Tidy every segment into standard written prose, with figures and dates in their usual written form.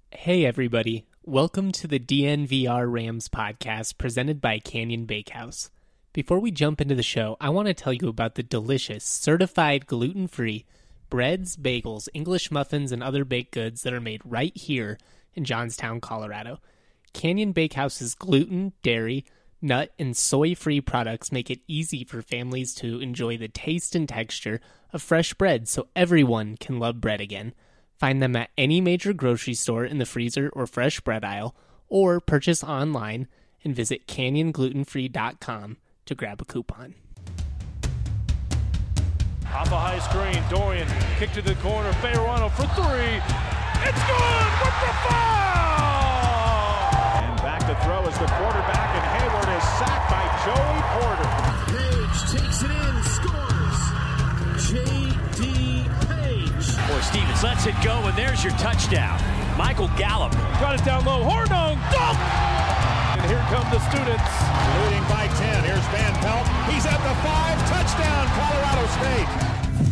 Hey everybody, welcome to the DNVR Rams podcast presented by Canyon Bakehouse. Before we jump into the show, I want to tell you about the delicious, certified gluten-free breads, bagels, English muffins, and other baked goods that are made right here in Johnstown, Colorado. Canyon Bakehouse's gluten, dairy, nut, and soy-free products make it easy for families to enjoy the taste and texture of fresh bread so everyone can love bread again. Find them at any major grocery store in the freezer or fresh bread aisle, or purchase online and visit canyonglutenfree.com to grab a coupon. Off a high screen, Dorian, kick to the corner, Fayerano for three. It's good with the foul! And back to throw is the quarterback, and Hayward is sacked by Joey Porter. Page takes it in, scores. J.D. Page. Or Stevens lets it go, and there's your touchdown. Michael Gallup. Got it down low, Hornung, dunk! And here come the students. Leading by 10, here's Van Pelt. He's at the 5, touchdown, Colorado State.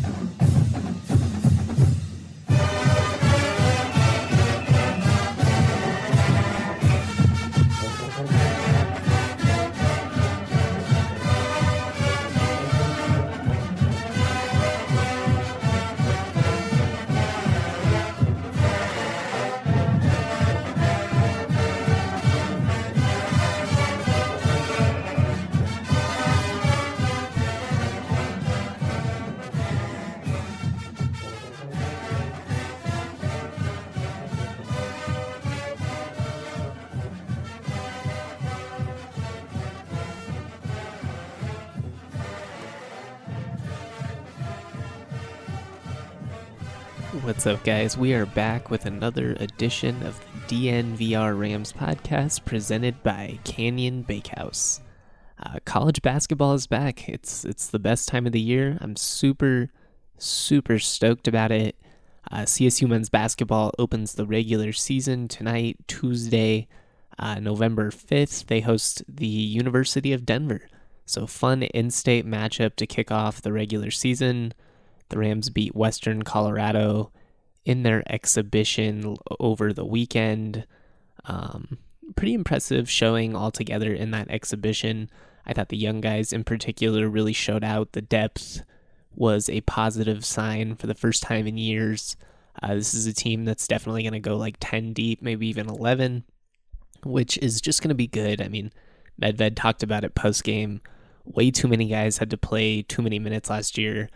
What's up, guys? We are back with another edition of the DNVR Rams podcast presented by Canyon Bakehouse. College basketball is back. It's the best time of the year. I'm super stoked about it. CSU men's basketball opens the regular season tonight, Tuesday, November 5th. They host the University of Denver. So fun in-state matchup to kick off the regular season. The Rams beat Western Colorado in their exhibition over the weekend. Pretty impressive showing altogether in that exhibition. I thought the young guys in particular really showed out. The depth was a positive sign for the first time in years. This is a team that's definitely going to go like 10 deep, maybe even 11, which is just going to be good. I mean, Medved talked about it post-game. Way too many guys had to play too many minutes last year.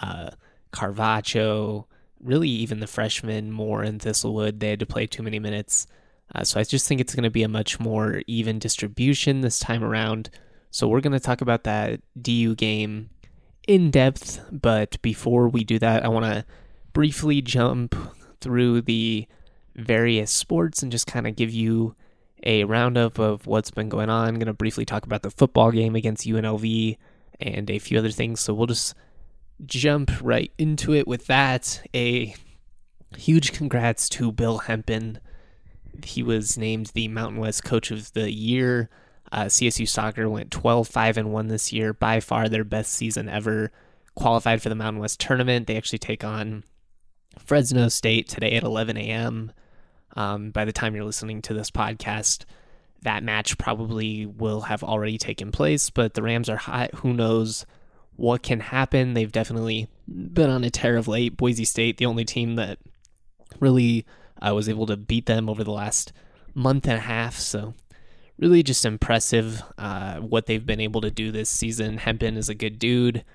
Carvacho, really even the freshmen, Moore and Thistlewood, they had to play too many minutes. So I just think it's going to be a much more even distribution this time around. So we're going to talk about that DU game in depth. But before we do that, I want to briefly jump through the various sports and just kind of give you a roundup of what's been going on. I'm going to briefly talk about the football game against UNLV and a few other things. So we'll just jump right into it with that. A huge congrats to Bill Hempen. He was named the Mountain West Coach of the Year. CSU soccer went 12-5-1 this year, by far their best season ever. Qualified for the Mountain West tournament. They actually take on Fresno State today at 11 a.m. By the time you're listening to this podcast, that match probably will have already taken place, but the Rams are hot. Who knows what can happen? They've definitely been on a tear of late. Boise State, the only team that really was able to beat them over the last month and a half. So really just impressive what they've been able to do this season. Hempen is a good dude.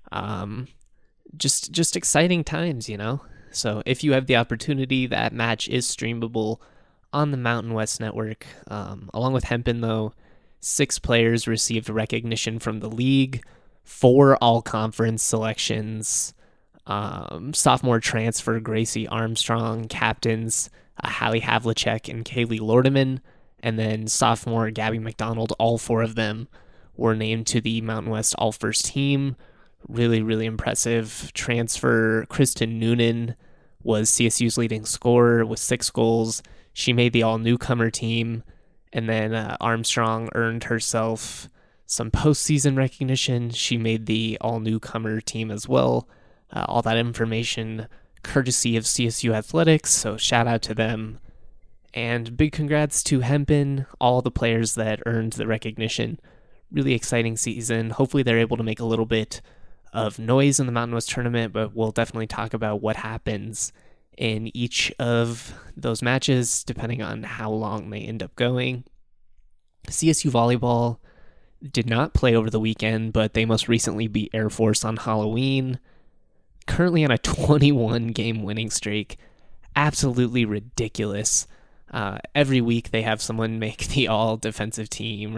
Just exciting times, you know? So if you have the opportunity, that match is streamable on the Mountain West Network. Along with Hempen, though, 6 players received recognition from the league. 4 all-conference selections, sophomore transfer Gracie Armstrong, captains Hallie Havlicek and Kaylee Lordeman, and then sophomore Gabby McDonald. All 4 of them were named to the Mountain West All-First Team. Really impressive transfer. Kristen Noonan was CSU's leading scorer with 6 goals. She made the all-newcomer team, and then Armstrong earned herself some postseason recognition. She made the all-newcomer team as well. All that information courtesy of CSU Athletics, so shout out to them. And big congrats to Hempen, all the players that earned the recognition. Really exciting season. Hopefully they're able to make a little bit of noise in the Mountain West tournament, but we'll definitely talk about what happens in each of those matches, depending on how long they end up going. CSU volleyball did not play over the weekend, but they most recently beat Air Force on Halloween. Currently on a 21-game winning streak. Absolutely ridiculous. Every week they have someone make the all-defensive team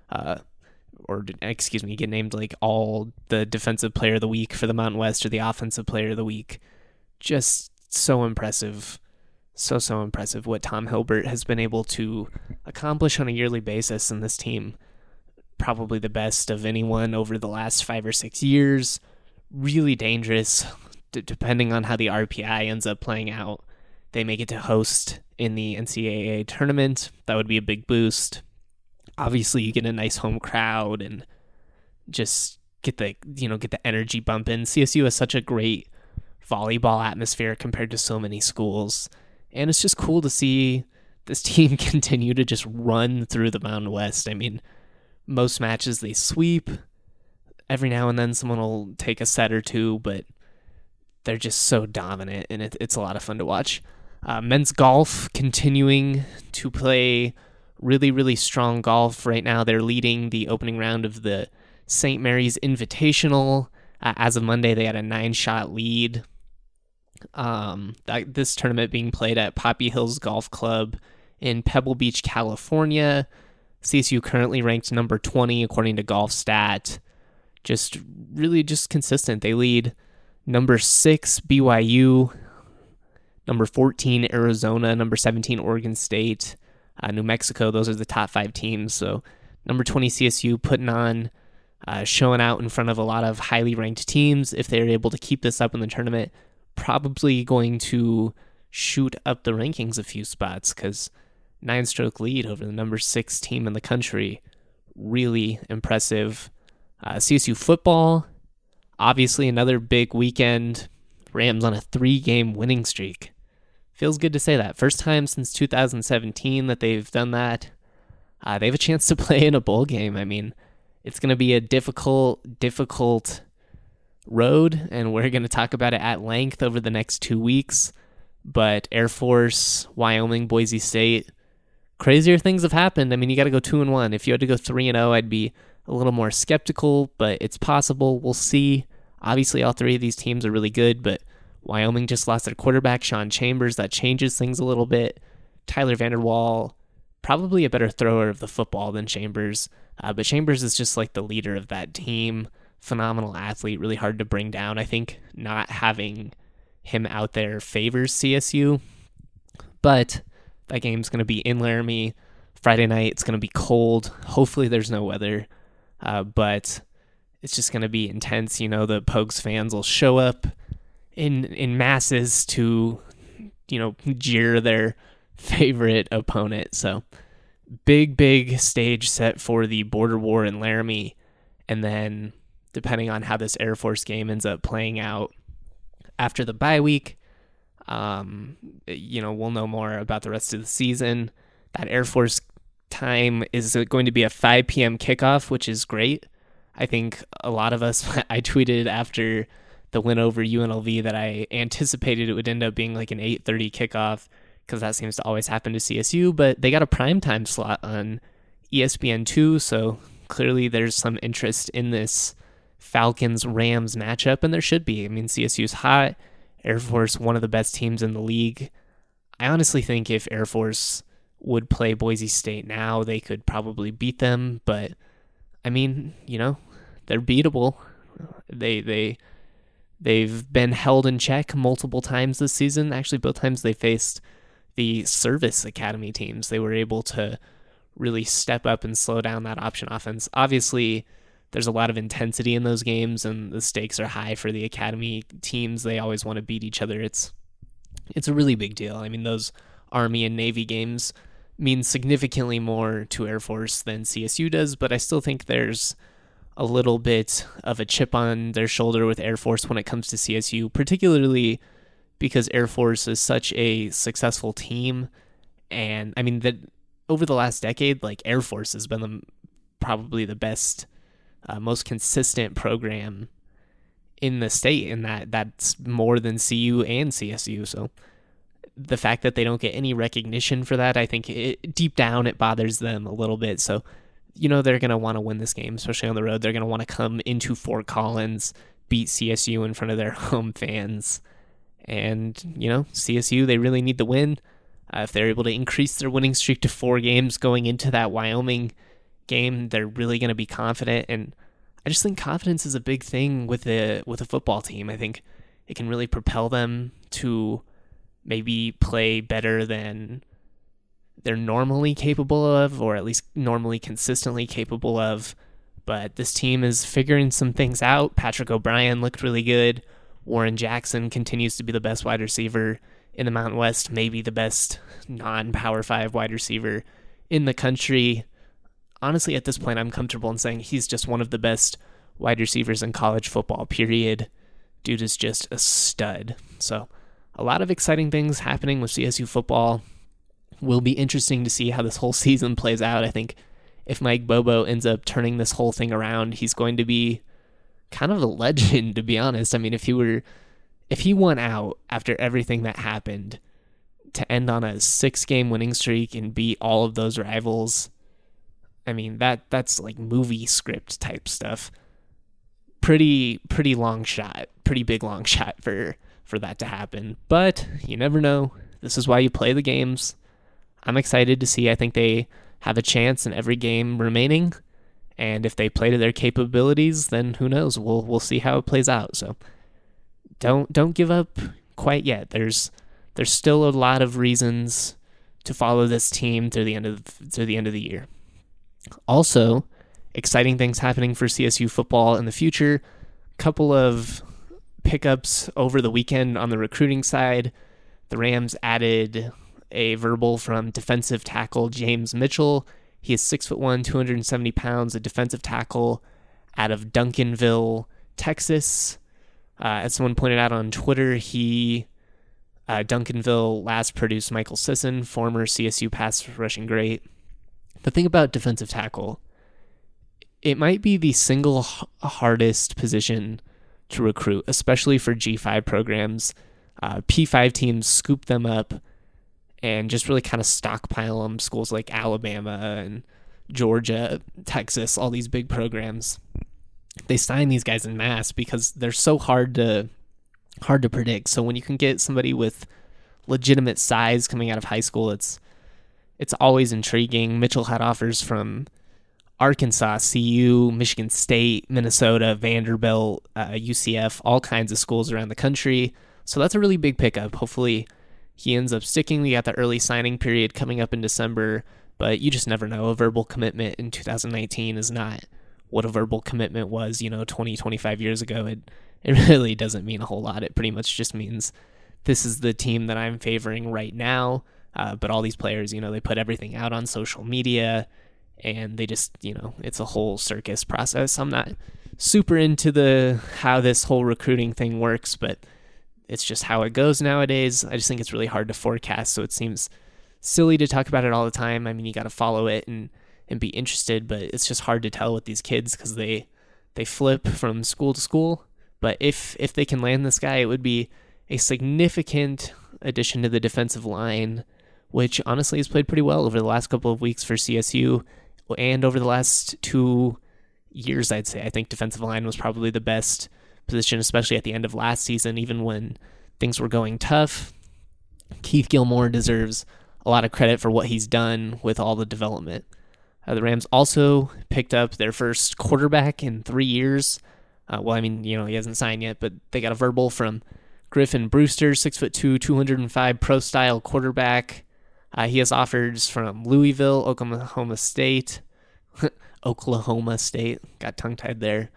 get named like all the defensive player of the week for the Mountain West or the offensive player of the week. Just so impressive. So impressive what Tom Hilbert has been able to accomplish on a yearly basis in this team. Probably the best of anyone over the last 5 or 6 years. Really dangerous, depending on how the RPI ends up playing out. They may get to host in the NCAA tournament. That would be a big boost. Obviously, you get a nice home crowd and just get the energy bumping. CSU has such a great volleyball atmosphere compared to so many schools, and it's just cool to see this team continue to just run through the Mountain West. I mean, most matches they sweep. Every now and then someone will take a set or two, but they're just so dominant, and it's a lot of fun to watch. Men's golf continuing to play really, really strong golf right now. They're leading the opening round of the St. Mary's Invitational. As of Monday, they had a 9-shot lead. This tournament being played at Poppy Hills Golf Club in Pebble Beach, California. CSU currently ranked number 20 according to GolfStat. Just really just consistent. They lead number 6 BYU, number 14 Arizona, number 17 Oregon State, New Mexico. Those are the top 5 teams. So number 20 CSU putting on, showing out in front of a lot of highly ranked teams. If they're able to keep this up in the tournament, probably going to shoot up the rankings a few spots, because 9-stroke lead over the number 6 team in the country. Really impressive. CSU football, obviously another big weekend. Rams on a 3-game winning streak. Feels good to say that. First time since 2017 that they've done that. They have a chance to play in a bowl game. I mean, it's going to be a difficult road, and we're going to talk about it at length over the next 2 weeks. But Air Force, Wyoming, Boise State, crazier things have happened. I mean, you got to go 2-1. If you had to go 3-0, I'd be a little more skeptical, but it's possible. We'll see. Obviously, all 3 of these teams are really good, but Wyoming just lost their quarterback, Sean Chambers. That changes things a little bit. Tyler Vanderwall, probably a better thrower of the football than Chambers, but Chambers is just like the leader of that team. Phenomenal athlete, really hard to bring down. I think not having him out there favors CSU, but that game's going to be in Laramie Friday night. It's going to be cold. Hopefully there's no weather, but it's just going to be intense. You know, the Pogues fans will show up in masses to, jeer their favorite opponent. So big stage set for the border war in Laramie. And then depending on how this Air Force game ends up playing out after the bye week, we'll know more about the rest of the season. That Air Force time is going to be a 5 p.m. kickoff, which is great. I think a lot of us, I tweeted after the win over UNLV that I anticipated it would end up being like an 8:30 kickoff, because that seems to always happen to CSU, but they got a primetime slot on ESPN2, so clearly there's some interest in this Falcons-Rams matchup, and there should be. I mean, CSU's hot. Air Force, one of the best teams in the league. I honestly think if Air Force would play Boise State now, they could probably beat them, but I mean, they're beatable. They've been held in check multiple times this season. Actually, both times they faced the service academy teams. They were able to really step up and slow down that option offense. Obviously, there's a lot of intensity in those games, and the stakes are high for the academy teams. They always want to beat each other. It's a really big deal. I mean, those Army and Navy games mean significantly more to Air Force than CSU does, but I still think there's a little bit of a chip on their shoulder with Air Force when it comes to CSU, particularly because Air Force is such a successful team, And I mean, that over the last decade, like Air Force has been probably the best, most consistent program in the state, and that's more than CU and CSU. So the fact that they don't get any recognition for that, I think deep down it bothers them a little bit. So, they're going to want to win this game, especially on the road. They're going to want to come into Fort Collins, beat CSU in front of their home fans. And, CSU, they really need the win. If they're able to increase their winning streak to 4 games going into that Wyoming game, they're really going to be confident. And I just think confidence is a big thing with a football team. I think it can really propel them to maybe play better than they're normally capable of, or at least normally consistently capable of. But this team is figuring some things out. Patrick O'Brien looked really good. Warren Jackson continues to be the best wide receiver in the Mountain West, maybe the best non-Power 5 wide receiver in the country. Honestly, at this point, I'm comfortable in saying he's just one of the best wide receivers in college football, period. Dude is just a stud. So a lot of exciting things happening with CSU football. Will be interesting to see how this whole season plays out. I think if Mike Bobo ends up turning this whole thing around, he's going to be kind of a legend, to be honest. I mean, if he won out after everything that happened to end on a 6-game winning streak and beat all of those rivals, I mean, that's like movie script type stuff. Pretty long shot, pretty big long shot for that to happen. But you never know. This is why you play the games. I'm excited to see. I think they have a chance in every game remaining, and if they play to their capabilities, then who knows? We'll see how it plays out. So don't give up quite yet. There's still a lot of reasons to follow this team through the end of the year. Also, exciting things happening for CSU football in the future. Couple of pickups over the weekend on the recruiting side. The Rams added a verbal from defensive tackle James Mitchell. He is 6'1", 270 pounds, a defensive tackle out of Duncanville, Texas. As someone pointed out on Twitter, Duncanville last produced Michael Sisson, former CSU pass rushing great. The thing about defensive tackle, it might be the single hardest position to recruit, especially for G5 programs. P5 teams scoop them up and just really kind of stockpile them. Schools like Alabama and Georgia, Texas, all these big programs, they sign these guys en masse because they're so hard to predict. So when you can get somebody with legitimate size coming out of high school, it's always intriguing. Mitchell had offers from Arkansas, CU, Michigan State, Minnesota, Vanderbilt, UCF, all kinds of schools around the country. So that's a really big pickup. Hopefully he ends up sticking. We got the early signing period coming up in December, but you just never know. A verbal commitment in 2019 is not what a verbal commitment was, 20, 25 years ago. It really doesn't mean a whole lot. It pretty much just means this is the team that I'm favoring right now. But all these players, they put everything out on social media, and they just, it's a whole circus process. I'm not super into how this whole recruiting thing works, but it's just how it goes nowadays. I just think it's really hard to forecast, so it seems silly to talk about it all the time. I mean, you got to follow it and be interested, but it's just hard to tell with these kids because they flip from school to school. But if they can land this guy, it would be a significant addition to the defensive line, which honestly has played pretty well over the last couple of weeks for CSU and over the last 2 years, I'd say. I think defensive line was probably the best position, especially at the end of last season, even when things were going tough. Keith Gilmore deserves a lot of credit for what he's done with all the development. The Rams also picked up their first quarterback in 3 years. He hasn't signed yet, but they got a verbal from Griffin Brewster, 6'2", 205 pro-style quarterback. He has offers from Louisville, Oklahoma State. Oklahoma State. Got tongue-tied there.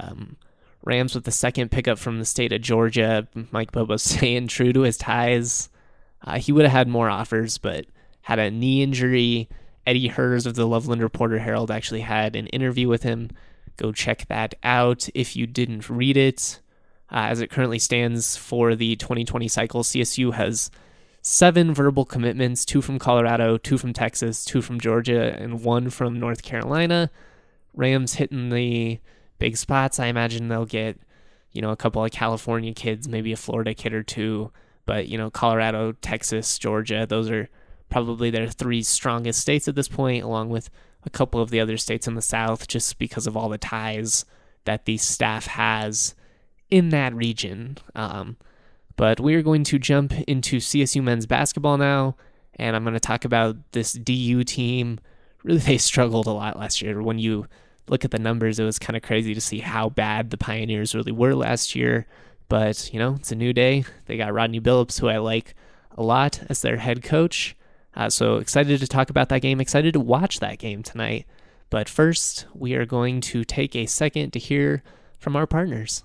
Rams with the second pickup from the state of Georgia. Mike Bobo staying true to his ties. He would have had more offers, but had a knee injury. Eddie Hers of the Loveland Reporter-Herald actually had an interview with him. Go check that out if you didn't read it. As it currently stands for the 2020 cycle, CSU has 7 verbal commitments, 2 from Colorado, 2 from Texas, 2 from Georgia, and 1 from North Carolina. Rams hitting the big spots. I imagine they'll get, a couple of California kids, maybe a Florida kid or 2. But, Colorado, Texas, Georgia, those are probably their 3 strongest states at this point, along with a couple of the other states in the South, just because of all the ties that the staff has in that region. But we're going to jump into CSU men's basketball now, and I'm going to talk about this DU team. Really, they struggled a lot last year. When you look at the numbers, it was kind of crazy to see how bad the Pioneers really were last year. But, it's a new day. They got Rodney Billups, who I like a lot, as their head coach. So excited to talk about that game, excited to watch that game tonight. But first, we are going to take a second to hear from our partners.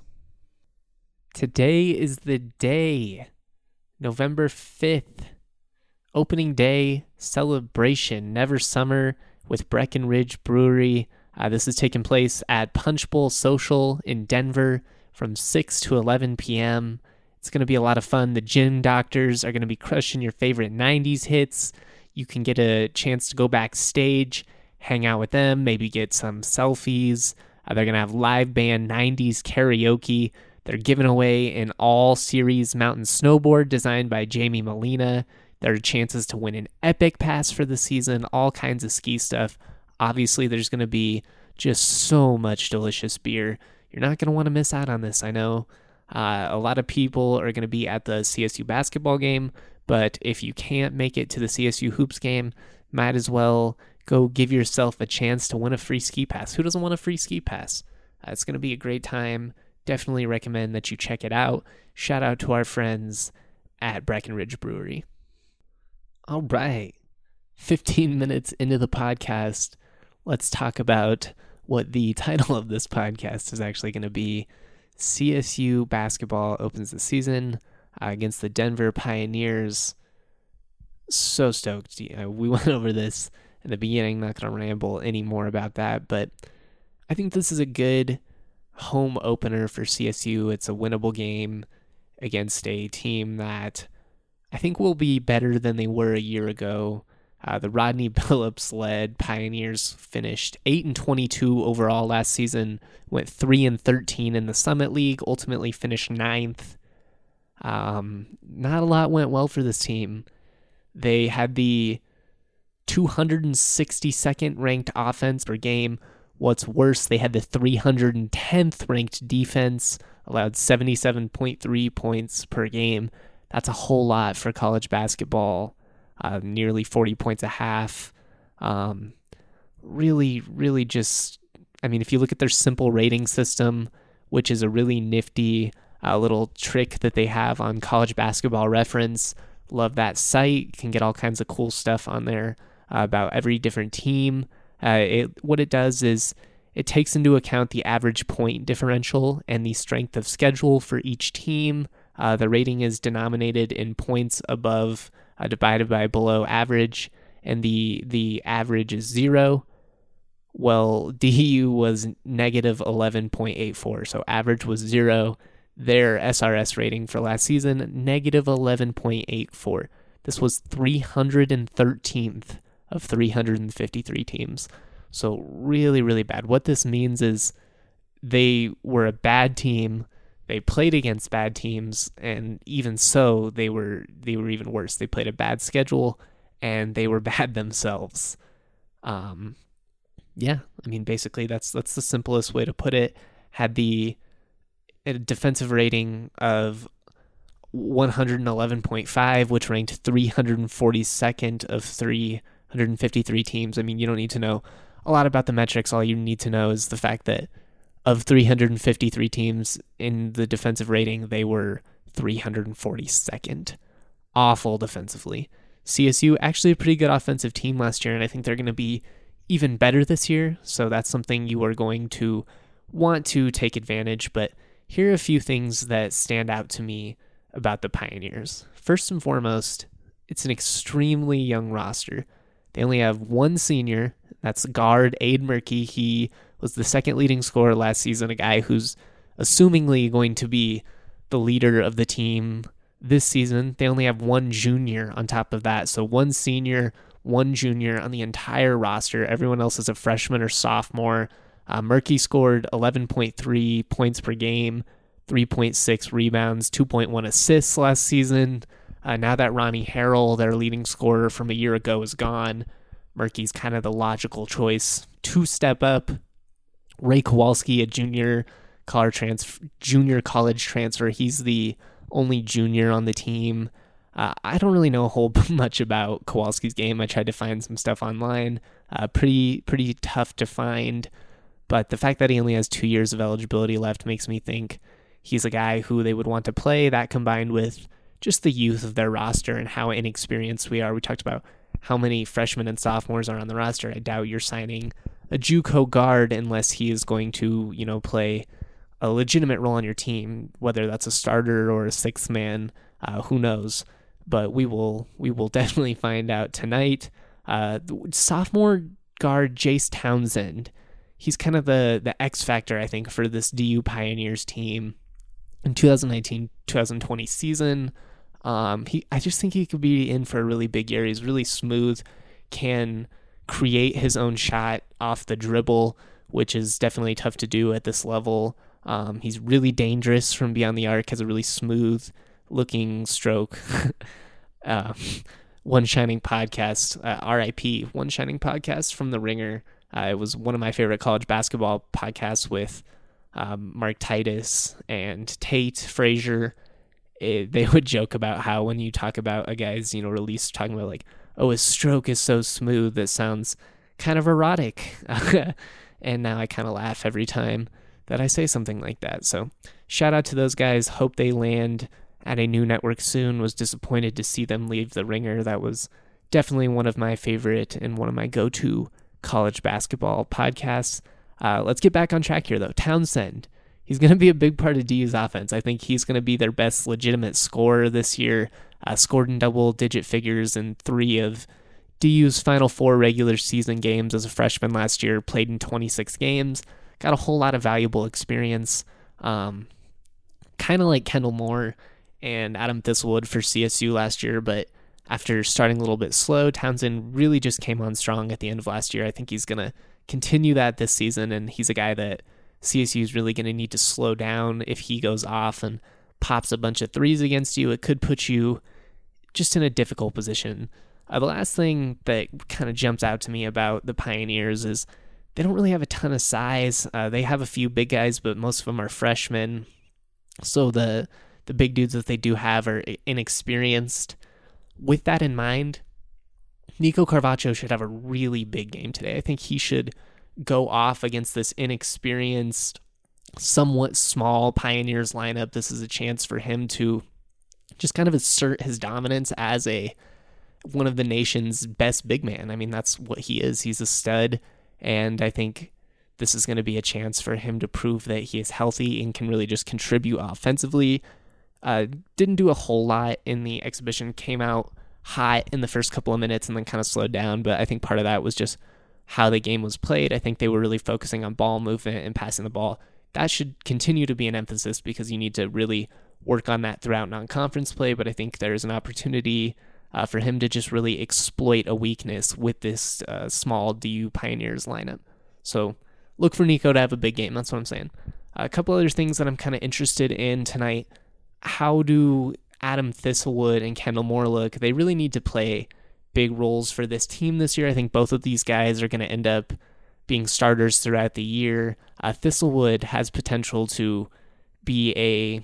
Today is the day, November 5th, opening day celebration, Never Summer with Breckenridge Brewery. This is taking place at Punch Bowl Social in Denver from 6 to 11 p.m. It's going to be a lot of fun. The Gin Doctors are going to be crushing your favorite 90s hits. You can get a chance to go backstage, hang out with them, maybe get some selfies. They're going to have live band 90s karaoke. They're giving away an all-series mountain snowboard designed by Jamie Molina. There are chances to win an Epic Pass for the season, all kinds of ski stuff. Obviously, there's going to be just so much delicious beer. You're not going to want to miss out on this, I know. A lot of people are going to be at the CSU basketball game, but if you can't make it to the CSU Hoops game, might as well go give yourself a chance to win a free ski pass. Who doesn't want a free ski pass? It's going to be a great time. Definitely recommend that you check it out. Shout out to our friends at Breckenridge Brewery. All right, 15 minutes into the podcast, let's talk about what the title of this podcast is actually going to be. CSU basketball opens the season against the Denver Pioneers. So stoked. We went over this in the beginning, not going to ramble any more about that, but I think this is a good home opener for CSU. It's a winnable game against a team that I think will be better than they were a year ago. The Rodney Billups-led Pioneers finished 8-22 overall last season, went 3-13 in the Summit League, ultimately finished 9th. Not a lot went well for this team. They had the 262nd ranked offense per game. What's worse, they had the 310th ranked defense, allowed 77.3 points per game. That's a whole lot for college basketball. Nearly 40 points a half. Really just, if you look at their simple rating system, which is a really nifty little trick that they have on College Basketball Reference, love that site. You can get all kinds of cool stuff on there about every different team. What it does is it takes into account the average point differential and the strength of schedule for each team. The rating is denominated in points above divided by below average, and the average is 0. Well, DU was negative 11.84, so average was 0. Their SRS rating for last season, negative 11.84. This was 313th of 353 teams. So really, really bad. What this means is they were a bad team. They played against bad teams, and even so, they were even worse. They played a bad schedule, and they were bad themselves. Basically, that's the simplest way to put it. Had a defensive rating of 111.5, which ranked 342nd of 353 teams. You don't need to know a lot about the metrics. All you need to know is the fact that of 353 teams in the defensive rating, they were 342nd. Awful defensively. CSU, actually a pretty good offensive team last year, and I think they're going to be even better this year, so that's something you are going to want to take advantage. But here are a few things that stand out to me about the Pioneers. First and foremost, it's an extremely young roster. They only have one senior, that's guard Aid Murkey. He was the second leading scorer last season, a guy who's assumingly going to be the leader of the team This season, they only have one junior on top of that. So one senior, one junior on the entire roster. Everyone else is a freshman or sophomore. Murky scored 11.3 points per game, 3.6 rebounds, 2.1 assists last season. Now that Ronnie Harrell, their leading scorer from a year ago, is gone, Murky's kind of the logical choice to step up. Ray Kowalski, a junior college transfer. He's the only junior on the team. I don't really know a whole much about Kowalski's game. I tried to find some stuff online. Pretty tough to find. But the fact that he only has 2 years of eligibility left makes me think he's a guy who they would want to play. That combined with just the youth of their roster and how inexperienced we are. We talked about how many freshmen and sophomores are on the roster. I doubt you're signing a JUCO guard unless he is going to, play a legitimate role on your team, whether that's a starter or a sixth man. Who knows? But we will definitely find out tonight. Sophomore guard Jace Townsend. He's kind of the X factor, I think, for this DU Pioneers team in 2019-2020 season. I just think he could be in for a really big year. He's really smooth, can create his own shot off the dribble, which is definitely tough to do at this level. He's really dangerous from beyond the arc, has a really smooth looking stroke. One Shining Podcast, RIP, One Shining Podcast from The Ringer. It was one of my favorite college basketball podcasts with Mark Titus and Tate Frazier. They would joke about how when you talk about a guy's, release, talking about like, oh, his stroke is so smooth, that sounds kind of erotic. And now I kind of laugh every time that I say something like that. So shout out to those guys. Hope they land at a new network soon. Was disappointed to see them leave The Ringer. That was definitely one of my favorite and one of my go-to college basketball podcasts. Let's get back on track here, though. Townsend. He's going to be a big part of DU's offense. I think he's going to be their best legitimate scorer this year. Scored in double-digit figures in 3 of DU's final 4 regular season games as a freshman last year. Played in 26 games. Got a whole lot of valuable experience. Kind of like Kendall Moore and Adam Thistlewood for CSU last year, but after starting a little bit slow, Townsend really just came on strong at the end of last year. I think he's going to continue that this season, and he's a guy that CSU is really going to need to slow down. If he goes off and pops a bunch of threes against you, it could put you just in a difficult position. The last thing that kind of jumps out to me about the Pioneers is they don't really have a ton of size. They have a few big guys, but most of them are freshmen. So the big dudes that they do have are inexperienced. With that in mind, Nico Carvacho should have a really big game today. I think he should go off against this inexperienced, somewhat small Pioneers lineup. This is a chance for him to just kind of assert his dominance as one of the nation's best big man. I mean, that's what he is. He's a stud, and I think this is going to be a chance for him to prove that he is healthy and can really just contribute offensively. Didn't do a whole lot in the exhibition, came out hot in the first couple of minutes and then kind of slowed down, but I think part of that was just how the game was played. I think they were really focusing on ball movement and passing the ball. That should continue to be an emphasis because you need to really work on that throughout non-conference play, but I think there's an opportunity for him to just really exploit a weakness with this small DU Pioneers lineup. So look for Nico to have a big game. That's what I'm saying. A couple other things that I'm kind of interested in tonight. How do Adam Thistlewood and Kendall Moore look? They really need to play big roles for this team this year. I think both of these guys are going to end up being starters throughout the year. Thistlewood has potential to be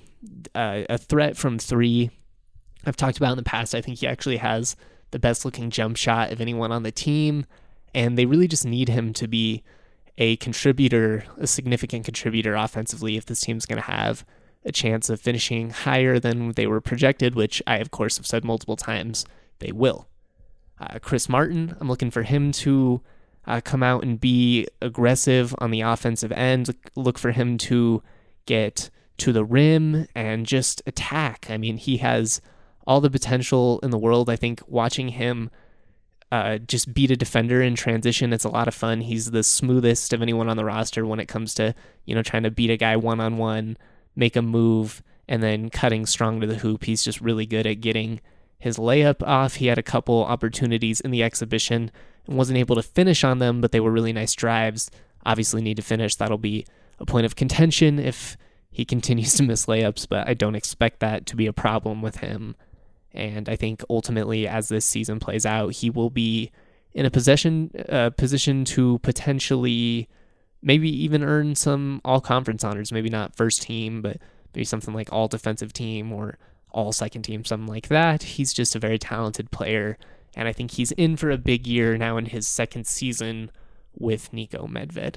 a threat from 3. I've talked about in the past, I think he actually has the best looking jump shot of anyone on the team, and they really just need him to be a contributor, a significant contributor offensively if this team's going to have a chance of finishing higher than they were projected, which I, of course, have said multiple times they will. Chris Martin, I'm looking for him to come out and be aggressive on the offensive end. Look for him to get to the rim and just attack. I mean, he has all the potential in the world. I think watching him just beat a defender in transition, it's a lot of fun. He's the smoothest of anyone on the roster when it comes to, trying to beat a guy one-on-one, make a move, and then cutting strong to the hoop. He's just really good at getting his layup off. He had a couple opportunities in the exhibition and wasn't able to finish on them, but they were really nice drives. Obviously need to finish. That'll be a point of contention if he continues to miss layups, but I don't expect that to be a problem with him. And I think ultimately, as this season plays out, he will be in a position to potentially maybe even earn some all-conference honors. Maybe not first team, but maybe something like all-defensive team or all-second team, something like that. He's just a very talented player, and I think he's in for a big year now in his second season with Niko Medved.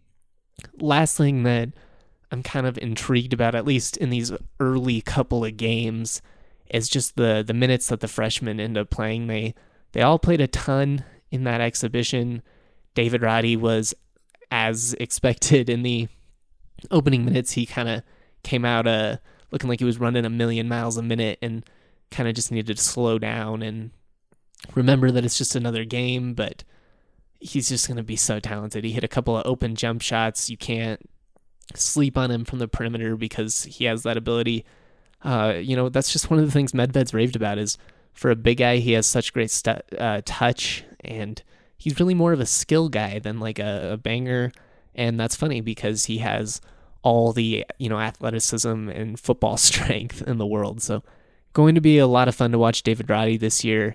Last thing that I'm kind of intrigued about, at least in these early couple of games, is just the minutes that the freshmen end up playing. They all played a ton in that exhibition. David Roddy was, as expected, in the opening minutes. He kind of came out looking like he was running 1,000,000 miles a minute and kind of just needed to slow down and remember that it's just another game, but he's just going to be so talented. He hit a couple of open jump shots. You can't sleep on him from the perimeter because he has that ability. That's just one of the things Medved's raved about, is for a big guy, he has such great touch, and he's really more of a skill guy than like a banger. And that's funny because he has all the, athleticism and football strength in the world. So going to be a lot of fun to watch David Roddy this year.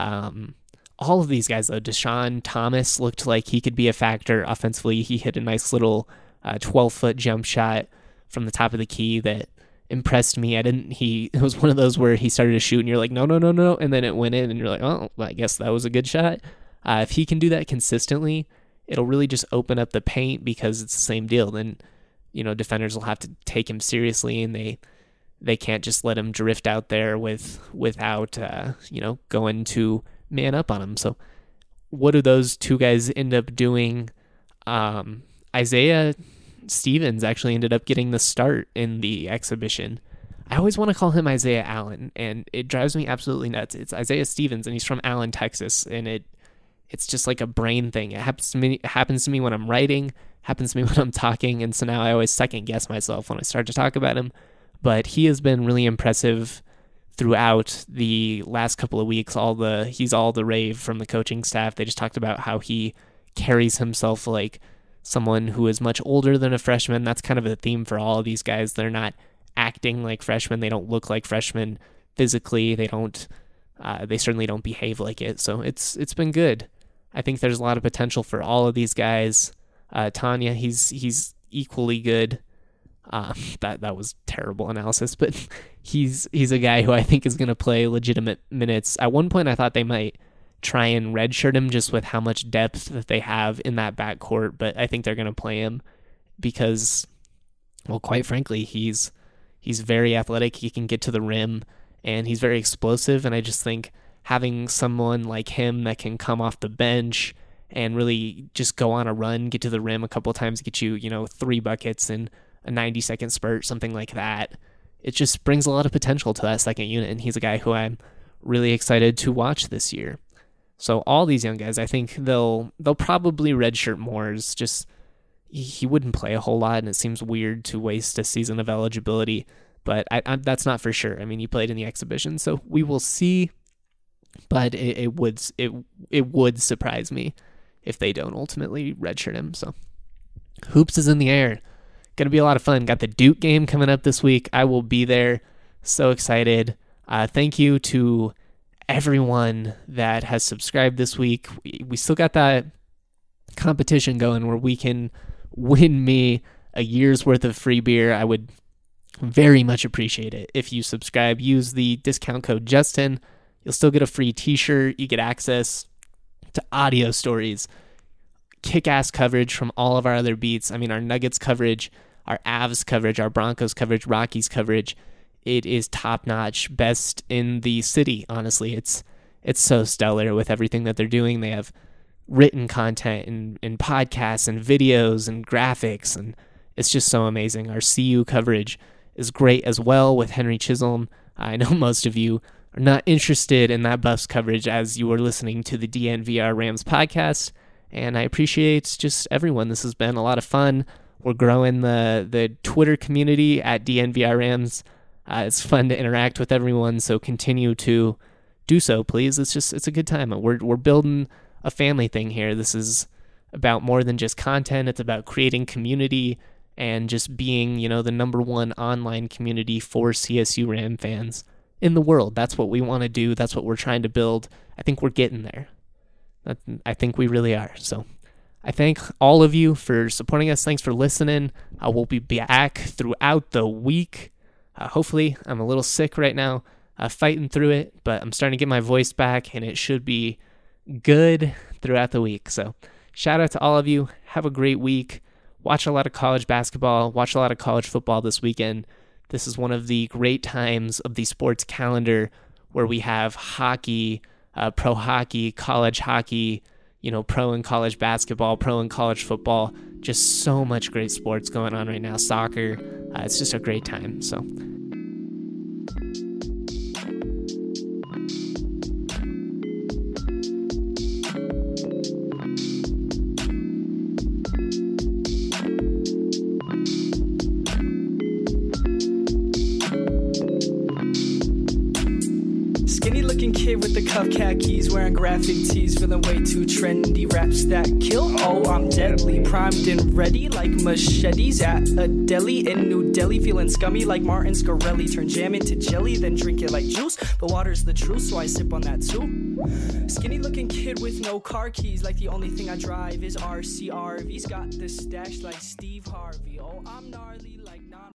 All of these guys, though, Deshaun Thomas looked like he could be a factor offensively. He hit a nice little 12-foot jump shot from the top of the key that impressed me. It was one of those where he started to shoot and you're like, no, and then it went in and you're like, oh, well, I guess that was a good shot. If he can do that consistently, it'll really just open up the paint because it's the same deal. Then, defenders will have to take him seriously, and they can't just let him drift out there without going to man up on him. So what do those two guys end up doing? Isaiah Stevens actually ended up getting the start in the exhibition. I always want to call him Isaiah Allen, and it drives me absolutely nuts. It's Isaiah Stevens, and he's from Allen, Texas, and it's just like a brain thing. It happens to me when I'm writing, happens to me when I'm talking, and so now I always second guess myself when I start to talk about him. But he has been really impressive throughout the last couple of weeks. He's all the rave from the coaching staff. They just talked about how he carries himself like someone who is much older than a freshman. That's kind of a theme for all of these guys. They're not acting like freshmen. They don't look like freshmen physically. They certainly don't behave like it. So it's been good. I think there's a lot of potential for all of these guys. Tanya, he's equally good. That was terrible analysis, but he's a guy who I think is going to play legitimate minutes. At one point, I thought they might try and redshirt him just with how much depth that they have in that backcourt, but I think they're going to play him because, well, quite frankly, he's very athletic. He can get to the rim, and he's very explosive, and I just think having someone like him that can come off the bench and really just go on a run, get to the rim a couple of times, get you, 3 buckets in a 90-second spurt, something like that, it just brings a lot of potential to that second unit, and he's a guy who I'm really excited to watch this year. So all these young guys, I think they'll probably redshirt Moores. Just he wouldn't play a whole lot, and it seems weird to waste a season of eligibility. But that's not for sure. I mean, he played in the exhibition, so we will see. But it would surprise me if they don't ultimately redshirt him. So hoops is in the air. Going to be a lot of fun. Got the Duke game coming up this week. I will be there. So excited. Thank you to everyone that has subscribed this week. We still got that competition going where we can win me a year's worth of free beer. I would very much appreciate it if you subscribe. Use the discount code Justin. You'll still get a free t-shirt. You get access to audio stories, kick-ass coverage from all of our other beats. I mean, our Nuggets coverage, our Avs coverage, our Broncos coverage, Rockies coverage. It is top-notch, best in the city, honestly. It's so stellar with everything that they're doing. They have written content and podcasts and videos and graphics, and it's just so amazing. Our CU coverage is great as well with Henry Chisholm. I know most of you are not interested in that Buffs coverage as you are listening to the DNVR Rams podcast, and I appreciate just everyone. This has been a lot of fun. We're growing the Twitter community at DNVR Rams. It's fun to interact with everyone, so continue to do so, please. It's a good time. We're building a family thing here. This is about more than just content. It's about creating community and just being, the number one online community for CSU Ram fans in the world. That's what we want to do. That's what we're trying to build. I think we're getting there. I think we really are. So I thank all of you for supporting us. Thanks for listening. We'll be back throughout the week. Hopefully, I'm a little sick right now, fighting through it, but I'm starting to get my voice back, and it should be good throughout the week. So shout out to all of you. Have a great week. Watch a lot of college basketball. Watch a lot of college football this weekend. This is one of the great times of the sports calendar where we have hockey, pro hockey, college hockey, pro and college basketball, pro and college football. Just so much great sports going on right now. Soccer. It's just a great time. So kid with the cuff khakis, wearing graphic tees, feeling way too trendy. Raps that kill, oh I'm deadly, primed and ready like machetes at a deli in New Delhi, feeling scummy like Martin Scarelli. Turn jam into jelly, then drink it like juice, but water's the truth, so I sip on that too. Skinny looking kid with no car keys, like the only thing I drive is RCRV's got the stash like Steve Harvey. Oh I'm gnarly.